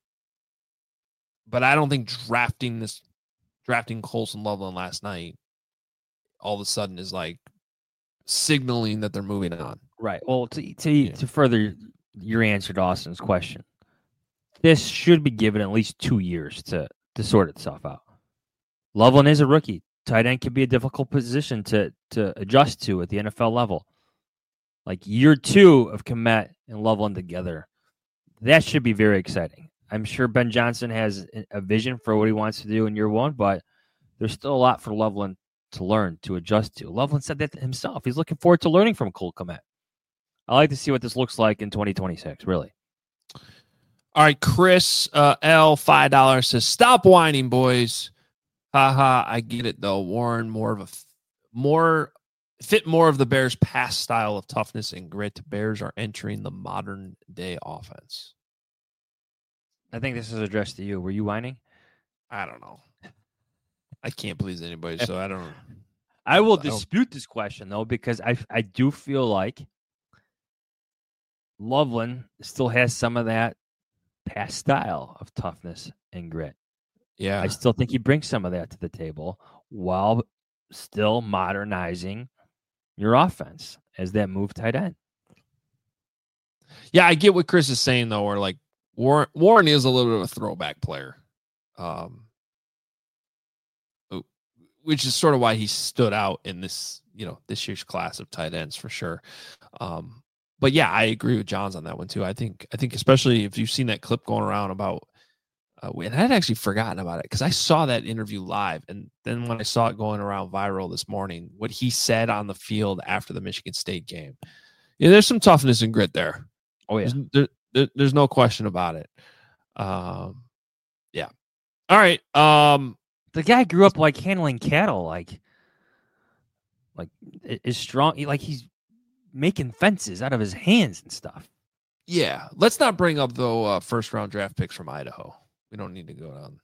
But I don't think drafting this, drafting Colston Loveland last night all of a sudden is like signaling that they're moving on. Right. Well, to to, Yeah. to further your answer to Austin's question, this should be given at least two years to, to sort itself out. Loveland is a rookie. Tight end can be a difficult position to, to adjust to at the N F L level. Like year two of Kmet and Loveland together, that should be very exciting. I'm sure Ben Johnson has a vision for what he wants to do in year one, but there's still a lot for Loveland to learn, to adjust to. Loveland said that himself. He's looking forward to learning from Cole Kmet. I like to see what this looks like in twenty twenty-six, really. All right, Chris uh, L, five dollars says, stop whining, boys. Haha, I get it, though. Warren, more of a more fit more of the Bears' past style of toughness and grit. Bears are entering the modern day offense. I think this is addressed to you. Were you whining? I don't know. I can't please anybody, so I don't. I will I don't- dispute this question, though, because I I do feel like Loveland still has some of that past style of toughness and grit. Yeah, I still think he brings some of that to the table while still modernizing your offense as that move tight end. yeah. I get what Chris is saying, though. Where like Warren, Warren is a little bit of a throwback player, um, which is sort of why he stood out in this, you know, this year's class of tight ends for sure. Um, but yeah, I agree with Johns on that one too. I think, I think especially if you've seen that clip going around about, uh, and I had actually forgotten about it because I saw that interview live, and then when I saw it going around viral this morning, what he said on the field after the Michigan State game, yeah, there's some toughness and grit there. Oh yeah, There's, there, there, there's no question about it. Um, yeah. All right. Um, the guy grew up like handling cattle, like like i- is strong. he- Like he's making fences out of his hands and stuff. yeah. Let's not bring up though uh, first round draft picks from Idaho. We don't need to go down.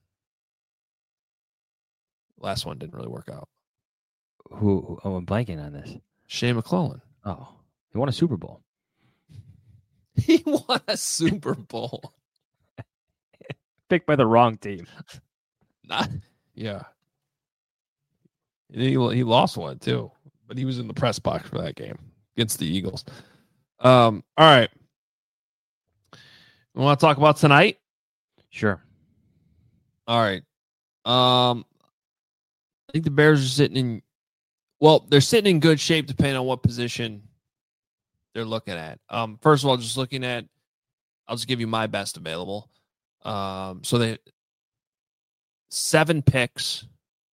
Last one didn't really work out. Who? who oh, I'm blanking on this. Shea McClellan. Oh, he won a Super Bowl. He won a Super Bowl. Picked by the wrong team. Not, yeah. He, he lost one too, but he was in the press box for that game against the Eagles. Um. All right. We want to talk about tonight? Sure. All right. Um, I think the Bears are sitting in, well, they're sitting in good shape depending on what position they're looking at. Um, first of all, just looking at, I'll just give you my best available. Um, so they seven picks.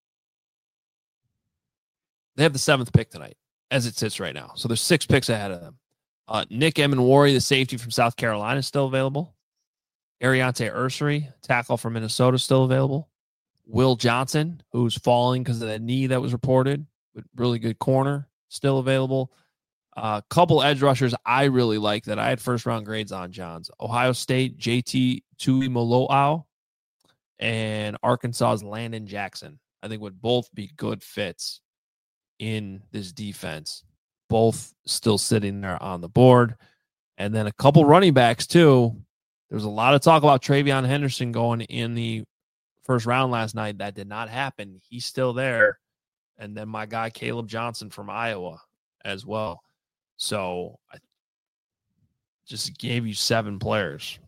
They have the seventh pick tonight as it sits right now. So there's six picks ahead of them. Uh, Nick Emenwari, the safety from South Carolina, is still available. Ariante Ursary, tackle from Minnesota, still available. Will Johnson, who's falling because of that knee that was reported, but really good corner, still available. A uh, couple edge rushers I really like that I had first round grades on, Johns. Ohio State, J T Tuimoloau, and Arkansas's Landon Jackson. I think would both be good fits in this defense. Both still sitting there on the board. And then a couple running backs, too. There's a lot of talk about Travion Henderson going in the first round last night. That did not happen. He's still there. And then my guy, Caleb Johnson from Iowa as well. So I just gave you seven players.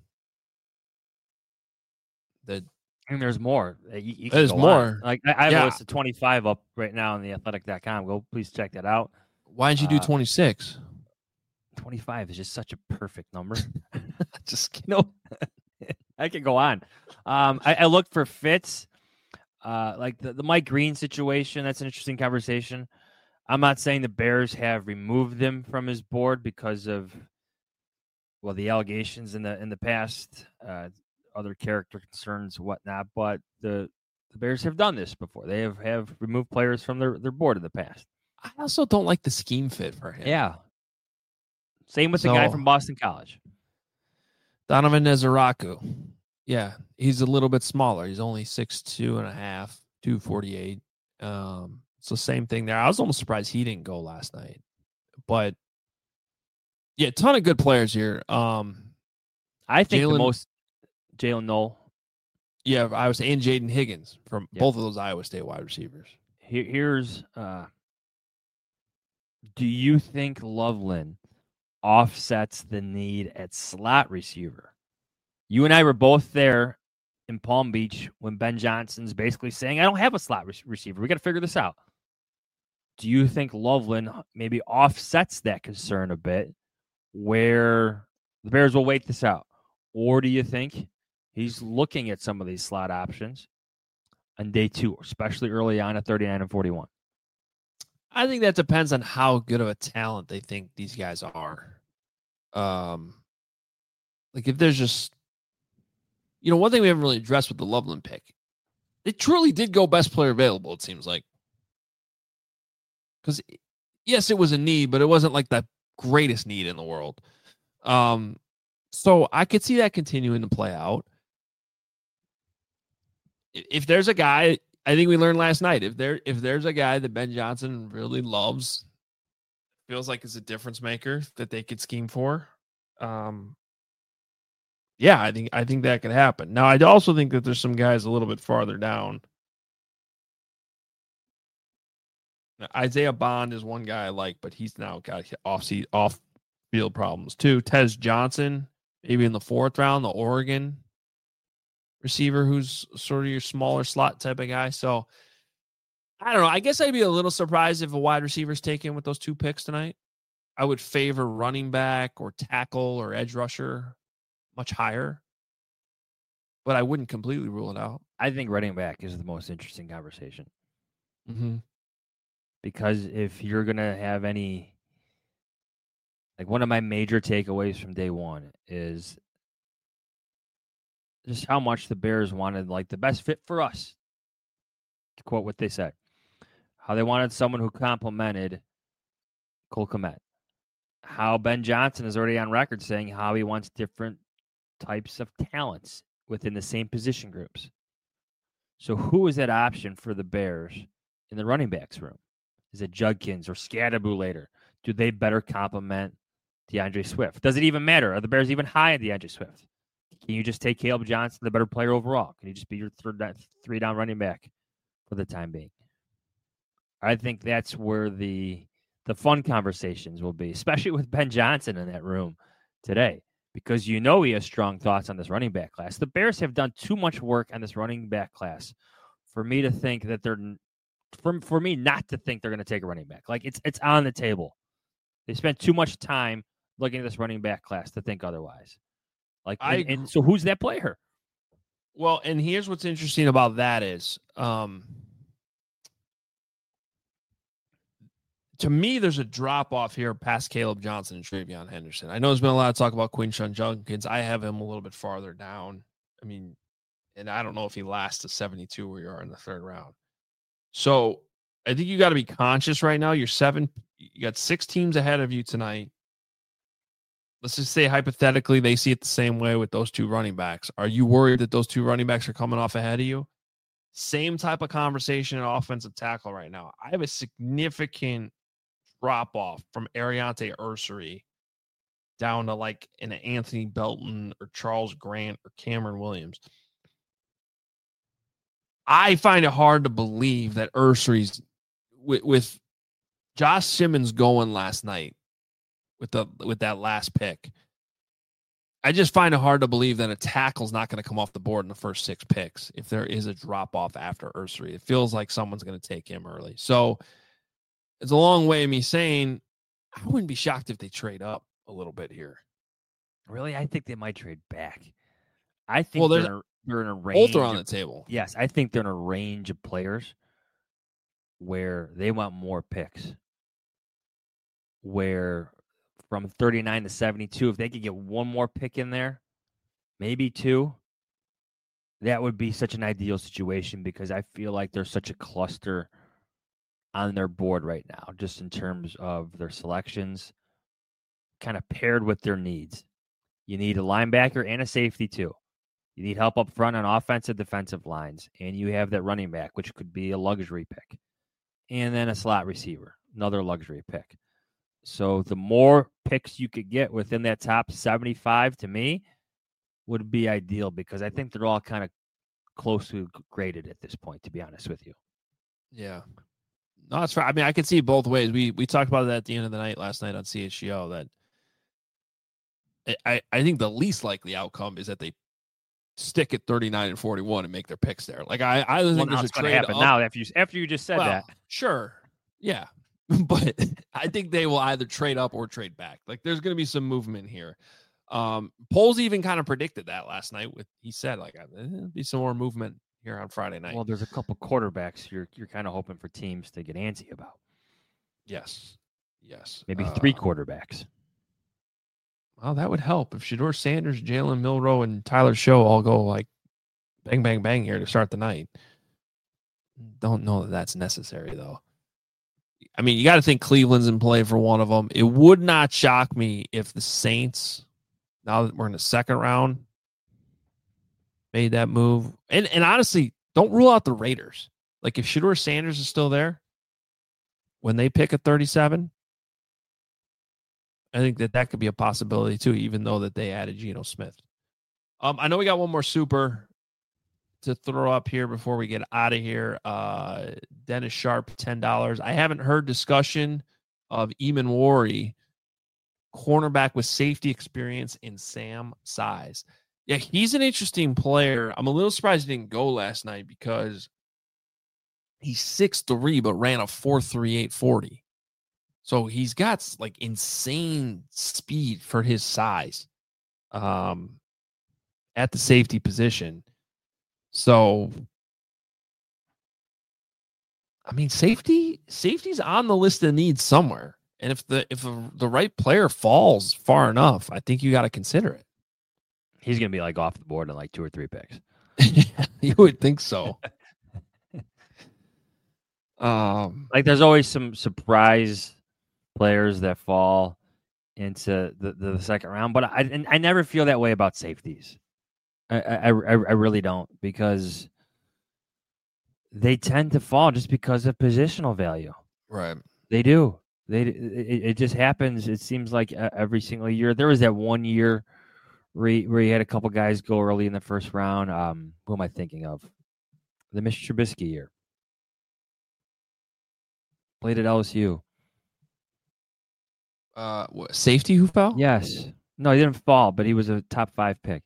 That And there's more. You, you can There's go more. on. Like I, I have Yeah. a list of twenty-five up right now on the athletic dot com. Go please check that out. Why didn't you do Uh, twenty-six? twenty-five is just such a perfect number. Just kidding. No, I can go on. Um, I, I looked for fits, uh, like the, the Mike Green situation. That's an interesting conversation. I'm not saying the Bears have removed him from his board because of, well, the allegations in the in the past, uh, other character concerns, whatnot. But the the Bears have done this before. They have, have removed players from their, their board in the past. I also don't like the scheme fit for him. Yeah. Same with the guy So- from Boston College. Donovan Nezaraku. Yeah, he's a little bit smaller. He's only six two and a half, two forty-eight. Um, so same thing there. I was almost surprised he didn't go last night. But yeah, a ton of good players here. Um, I think Jalen- the most Jalen Knoll. yeah, I was and Jaden Higgins from Yeah. both of those Iowa State wide receivers. Here, here's uh, do you think Loveland offsets the need at slot receiver? You and I were both there in Palm Beach when Ben Johnson's basically saying, I don't have a slot re- receiver. We got to figure this out. Do you think Loveland maybe offsets that concern a bit where the Bears will wait this out? Or do you think he's looking at some of these slot options on day two, especially early on at thirty-nine and forty-one? I think that depends on how good of a talent they think these guys are. Um, like if there's just, you know, one thing we haven't really addressed with the Loveland pick, they truly did go best player available. It seems like, because yes, it was a need, but it wasn't like the greatest need in the world. Um, so I could see that continuing to play out. If if there's a guy, I think we learned last night, if there if there's a guy that Ben Johnson really loves, feels like is a difference maker that they could scheme for, um, yeah, I think I think that could happen. Now, I also think that there's some guys a little bit farther down. Now, Isaiah Bond is one guy I like, but he's now got off off field problems too. Tez Johnson, maybe in the fourth round, the Oregon receiver who's sort of your smaller slot type of guy. So I don't know. I guess I'd be a little surprised if a wide receiver is taken with those two picks tonight. I would favor running back or tackle or edge rusher much higher, but I wouldn't completely rule it out. I think running back is the most interesting conversation Mm-hmm. because if you're going to have any, like one of my major takeaways from day one is just how much the Bears wanted like the best fit for us. To quote what they said, how they wanted someone who complemented Cole Kmet. How Ben Johnson is already on record saying how he wants different types of talents within the same position groups. So who is that option for the Bears in the running backs room? Is it Judkins or Scadaboo later? Do they better complement DeAndre Swift? Does it even matter? Are the Bears even high on DeAndre Swift? Can you just take Caleb Johnson, the better player overall? Can he just be your third down, three down running back for the time being? I think that's where the the fun conversations will be, especially with Ben Johnson in that room today, because you know he has strong thoughts on this running back class. The Bears have done too much work on this running back class for me to think that they're for, for me not to think they're going to take a running back. Like it's it's on the table. They spent too much time looking at this running back class to think otherwise. Like, I and, and so who's that player? Well, and here's what's interesting about that is um, to me, there's a drop off here past Caleb Johnson and Travion Henderson. I know there's been a lot of talk about Quinshon Judkins. I have him a little bit farther down. I mean, and I don't know if he lasts to seventy-two where you are in the third round. So I think you got to be conscious right now. You're seven, you got six teams ahead of you tonight. Let's just say hypothetically they see it the same way with those two running backs. Are you worried that those two running backs are coming off ahead of you? Same type of conversation at offensive tackle right now. I have a significant drop off from Ariante Ursery down to like an Anthony Belton or Charles Grant or Cameron Williams. I find it hard to believe that Ursery's with, with Josh Simmons going last night with the with that last pick. I just find it hard to believe that a tackle's not going to come off the board in the first six picks if there is a drop off after Ursery. It feels like someone's going to take him early. So it's a long way of me saying I wouldn't be shocked if they trade up a little bit here. Really, I think they might trade back. I think well, they're, there's in a, they're in a range. Both are on of, the table. Yes, I think they're in a range of players where they want more picks. Where from thirty-nine to seventy-two, if they could get one more pick in there, maybe two, that would be such an ideal situation because I feel like there's such a cluster on their board right now, just in terms of their selections, kind of paired with their needs. You need a linebacker and a safety too. You need help up front on offensive, defensive lines, and you have that running back, which could be a luxury pick, and then a slot receiver, another luxury pick. So the more picks you could get within that top seventy-five, to me, would be ideal because I think they're all kind of closely graded at this point, to be honest with you. Yeah. No, that's right. I mean, I could see it both ways. We we talked about that at the end of the night last night on C H G O that I, I think the least likely outcome is that they stick at thirty-nine and forty-one and make their picks there. Like I, I think well, there's a going to trade happen up. now after you after you just said well, that. Sure. Yeah. But I think they will either trade up or trade back. Like there's going to be some movement here. Um, Poles even kind of predicted that last night. With he said like there'll be some more movement here on Friday night. Well, there's a couple quarterbacks you're you're kind of hoping for teams to get antsy about. Yes. Yes. Maybe uh, three quarterbacks. Well, that would help if Shedeur Sanders, Jalen Milroe, and Tyler Show all go like bang, bang, bang here to start the night. Don't know that that's necessary though. I mean, you got to think Cleveland's in play for one of them. It would not shock me if the Saints, now that we're in the second round, made that move. And and honestly, don't rule out the Raiders. Like if Shedeur Sanders is still there, when they pick at thirty-seven, I think that that could be a possibility too, even though that they added Geno Smith. Um, I know we got one more super to throw up here before we get out of here. Uh, Dennis Sharp, ten dollars. I haven't heard discussion of Eamon Warry, cornerback with safety experience in Sam size. Yeah, he's an interesting player. I'm a little surprised he didn't go last night because he's six three, but ran a four three eight forty. So he's got like insane speed for his size um, at the safety position. So, I mean, safety safety's on the list of needs somewhere. And if the if a, the right player falls far enough, I think you got to consider it. He's going to be like off the board in like two or three picks. You would think so. um, Like there's always some surprise players that fall into the, the second round, but I and I never feel that way about safeties. I, I, I really don't, because they tend to fall just because of positional value. Right. They do. They it, it just happens. It seems like every single year. There was that one year where he, where he had a couple guys go early in the first round. Um, who am I thinking of? The Mister Trubisky year. Played at L S U. Uh, what, safety who fell? Yes. No, he didn't fall, but he was a top five pick.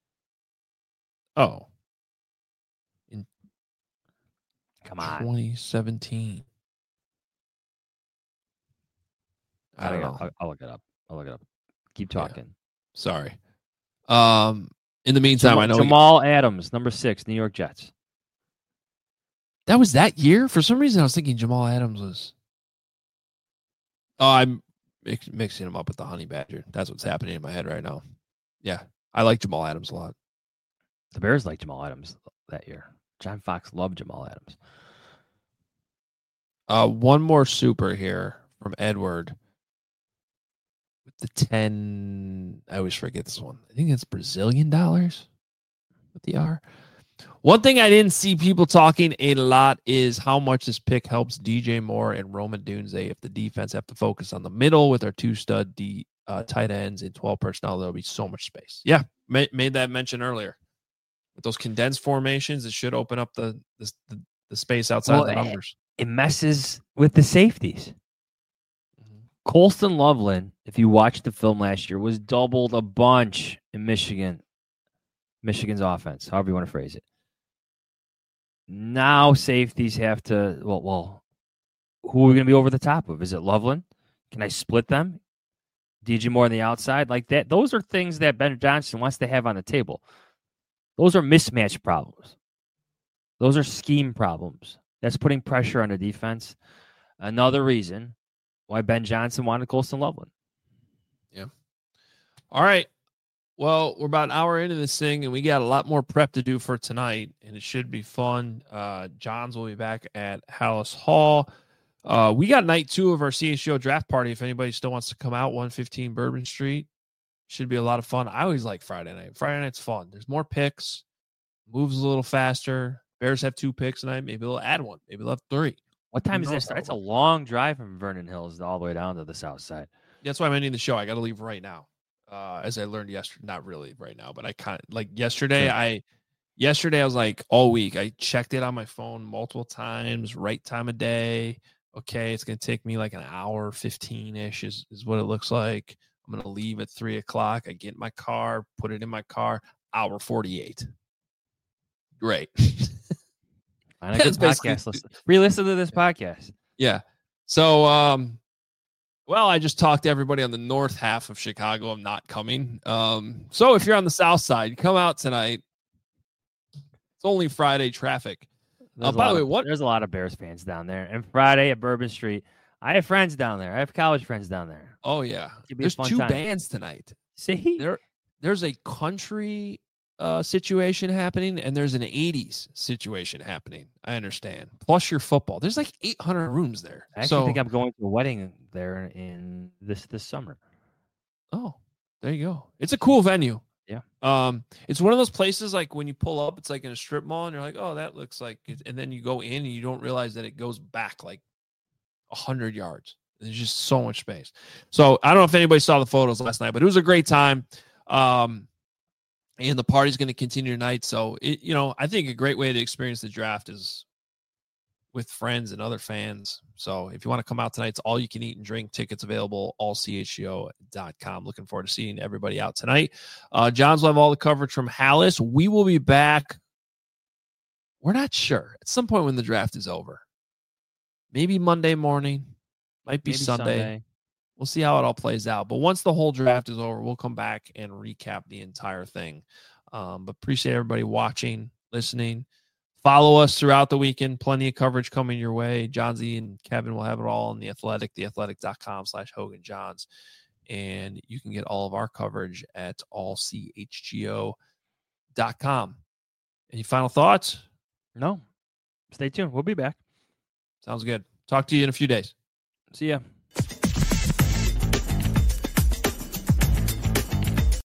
Oh. In Come on. twenty seventeen. I don't know. I'll, I'll look it up. I'll look it up. Keep talking. Yeah. Sorry. Um. In the meantime, Jamal, I know Jamal we, Adams, number six, New York Jets. That was that year? For some reason, I was thinking Jamal Adams was. Oh, I'm mix, mixing him up with the Honey Badger. That's what's happening in my head right now. Yeah, I like Jamal Adams a lot. The Bears liked Jamal Adams that year. John Fox loved Jamal Adams. Uh, one more super here from Edward. With the ten, I always forget this one. I think it's Brazilian dollars with the R. One thing I didn't see people talking a lot is how much this pick helps D J Moore and Rome Odunze if the defense have to focus on the middle with our two stud D, uh, tight ends in twelve personnel. There'll be so much space. Yeah, ma- made that mention earlier. With those condensed formations, it should open up the the, the, the space outside Well, the numbers. It messes with the safeties. Colston Loveland, if you watched the film last year, was doubled a bunch in Michigan. Michigan's offense, however you want to phrase it. Now safeties have to, well, well, who are we going to be over the top of? Is it Loveland? Can I split them? D J Moore on the outside? Like that. Those are things that Ben Johnson wants to have on the table. Those are mismatch problems. Those are scheme problems. That's putting pressure on the defense. Another reason why Ben Johnson wanted Colston Loveland. Yeah. All right. Well, we're about an hour into this thing, and we got a lot more prep to do for tonight, and it should be fun. Uh, Johns will be back at Hallis Hall. Uh, we got night two of our C H G O draft party. If anybody still wants to come out, one fifteen Bourbon Street. Should be a lot of fun. I always like Friday night. Friday night's fun. There's more picks. Moves a little faster. Bears have two picks tonight. Maybe they'll add one. Maybe they'll have three. What time is that start? It's a long drive from Vernon Hills all the way down to the south side. That's why I'm ending the show. I got to leave right now. Uh, as I learned yesterday, not really right now, but I kind of like yesterday. Sure. I yesterday I was like all week. I checked it on my phone multiple times. Right time of day. Okay, it's gonna take me like an hour, fifteen ish is is what it looks like. I'm gonna leave at three o'clock. I get in my car, put it in my car. Hour forty-eight. Great. Find a good podcast. Listen. Re-listen to this podcast. Yeah. So, um, well, I just talked to everybody on the north half of Chicago. I'm not coming. Um, so if you're on the south side, come out tonight. It's only Friday traffic. Uh, by the way, of, what? There's a lot of Bears fans down there. And Friday at Bourbon Street, I have friends down there. I have college friends down there. Oh yeah. There's two time. bands tonight. See, there, there's a country uh, situation happening, and there's an eighties situation happening. I understand. Plus your football. There's like eight hundred rooms there. I actually so, think I'm going to a wedding there in this this summer. Oh, there you go. It's a cool venue. Yeah. Um, it's one of those places like when you pull up, it's like in a strip mall, and you're like, oh, that looks like it. And then you go in, and you don't realize that it goes back like a hundred yards. There's just so much space. So I don't know if anybody saw the photos last night, but it was a great time. Um, and the party's going to continue tonight. So it, you know, I think a great way to experience the draft is with friends and other fans. So if you want to come out tonight, it's all you can eat and drink. Tickets available, all C H G O dot com. Looking forward to seeing everybody out tonight. Uh, John's will have all the coverage from Hallis. We will be back. We're not sure. At some point when the draft is over. Maybe Monday morning. Might be Maybe Sunday. Sunday. We'll see how it all plays out. But once the whole draft is over, we'll come back and recap the entire thing. Um, but appreciate everybody watching, listening. Follow us throughout the weekend. Plenty of coverage coming your way. John Z and Kevin will have it all on The Athletic, theathletic.com slash Hogan Johns. And you can get all of our coverage at all C H G O dot com. Any final thoughts? No. Stay tuned. We'll be back. Sounds good. Talk to you in a few days. See ya.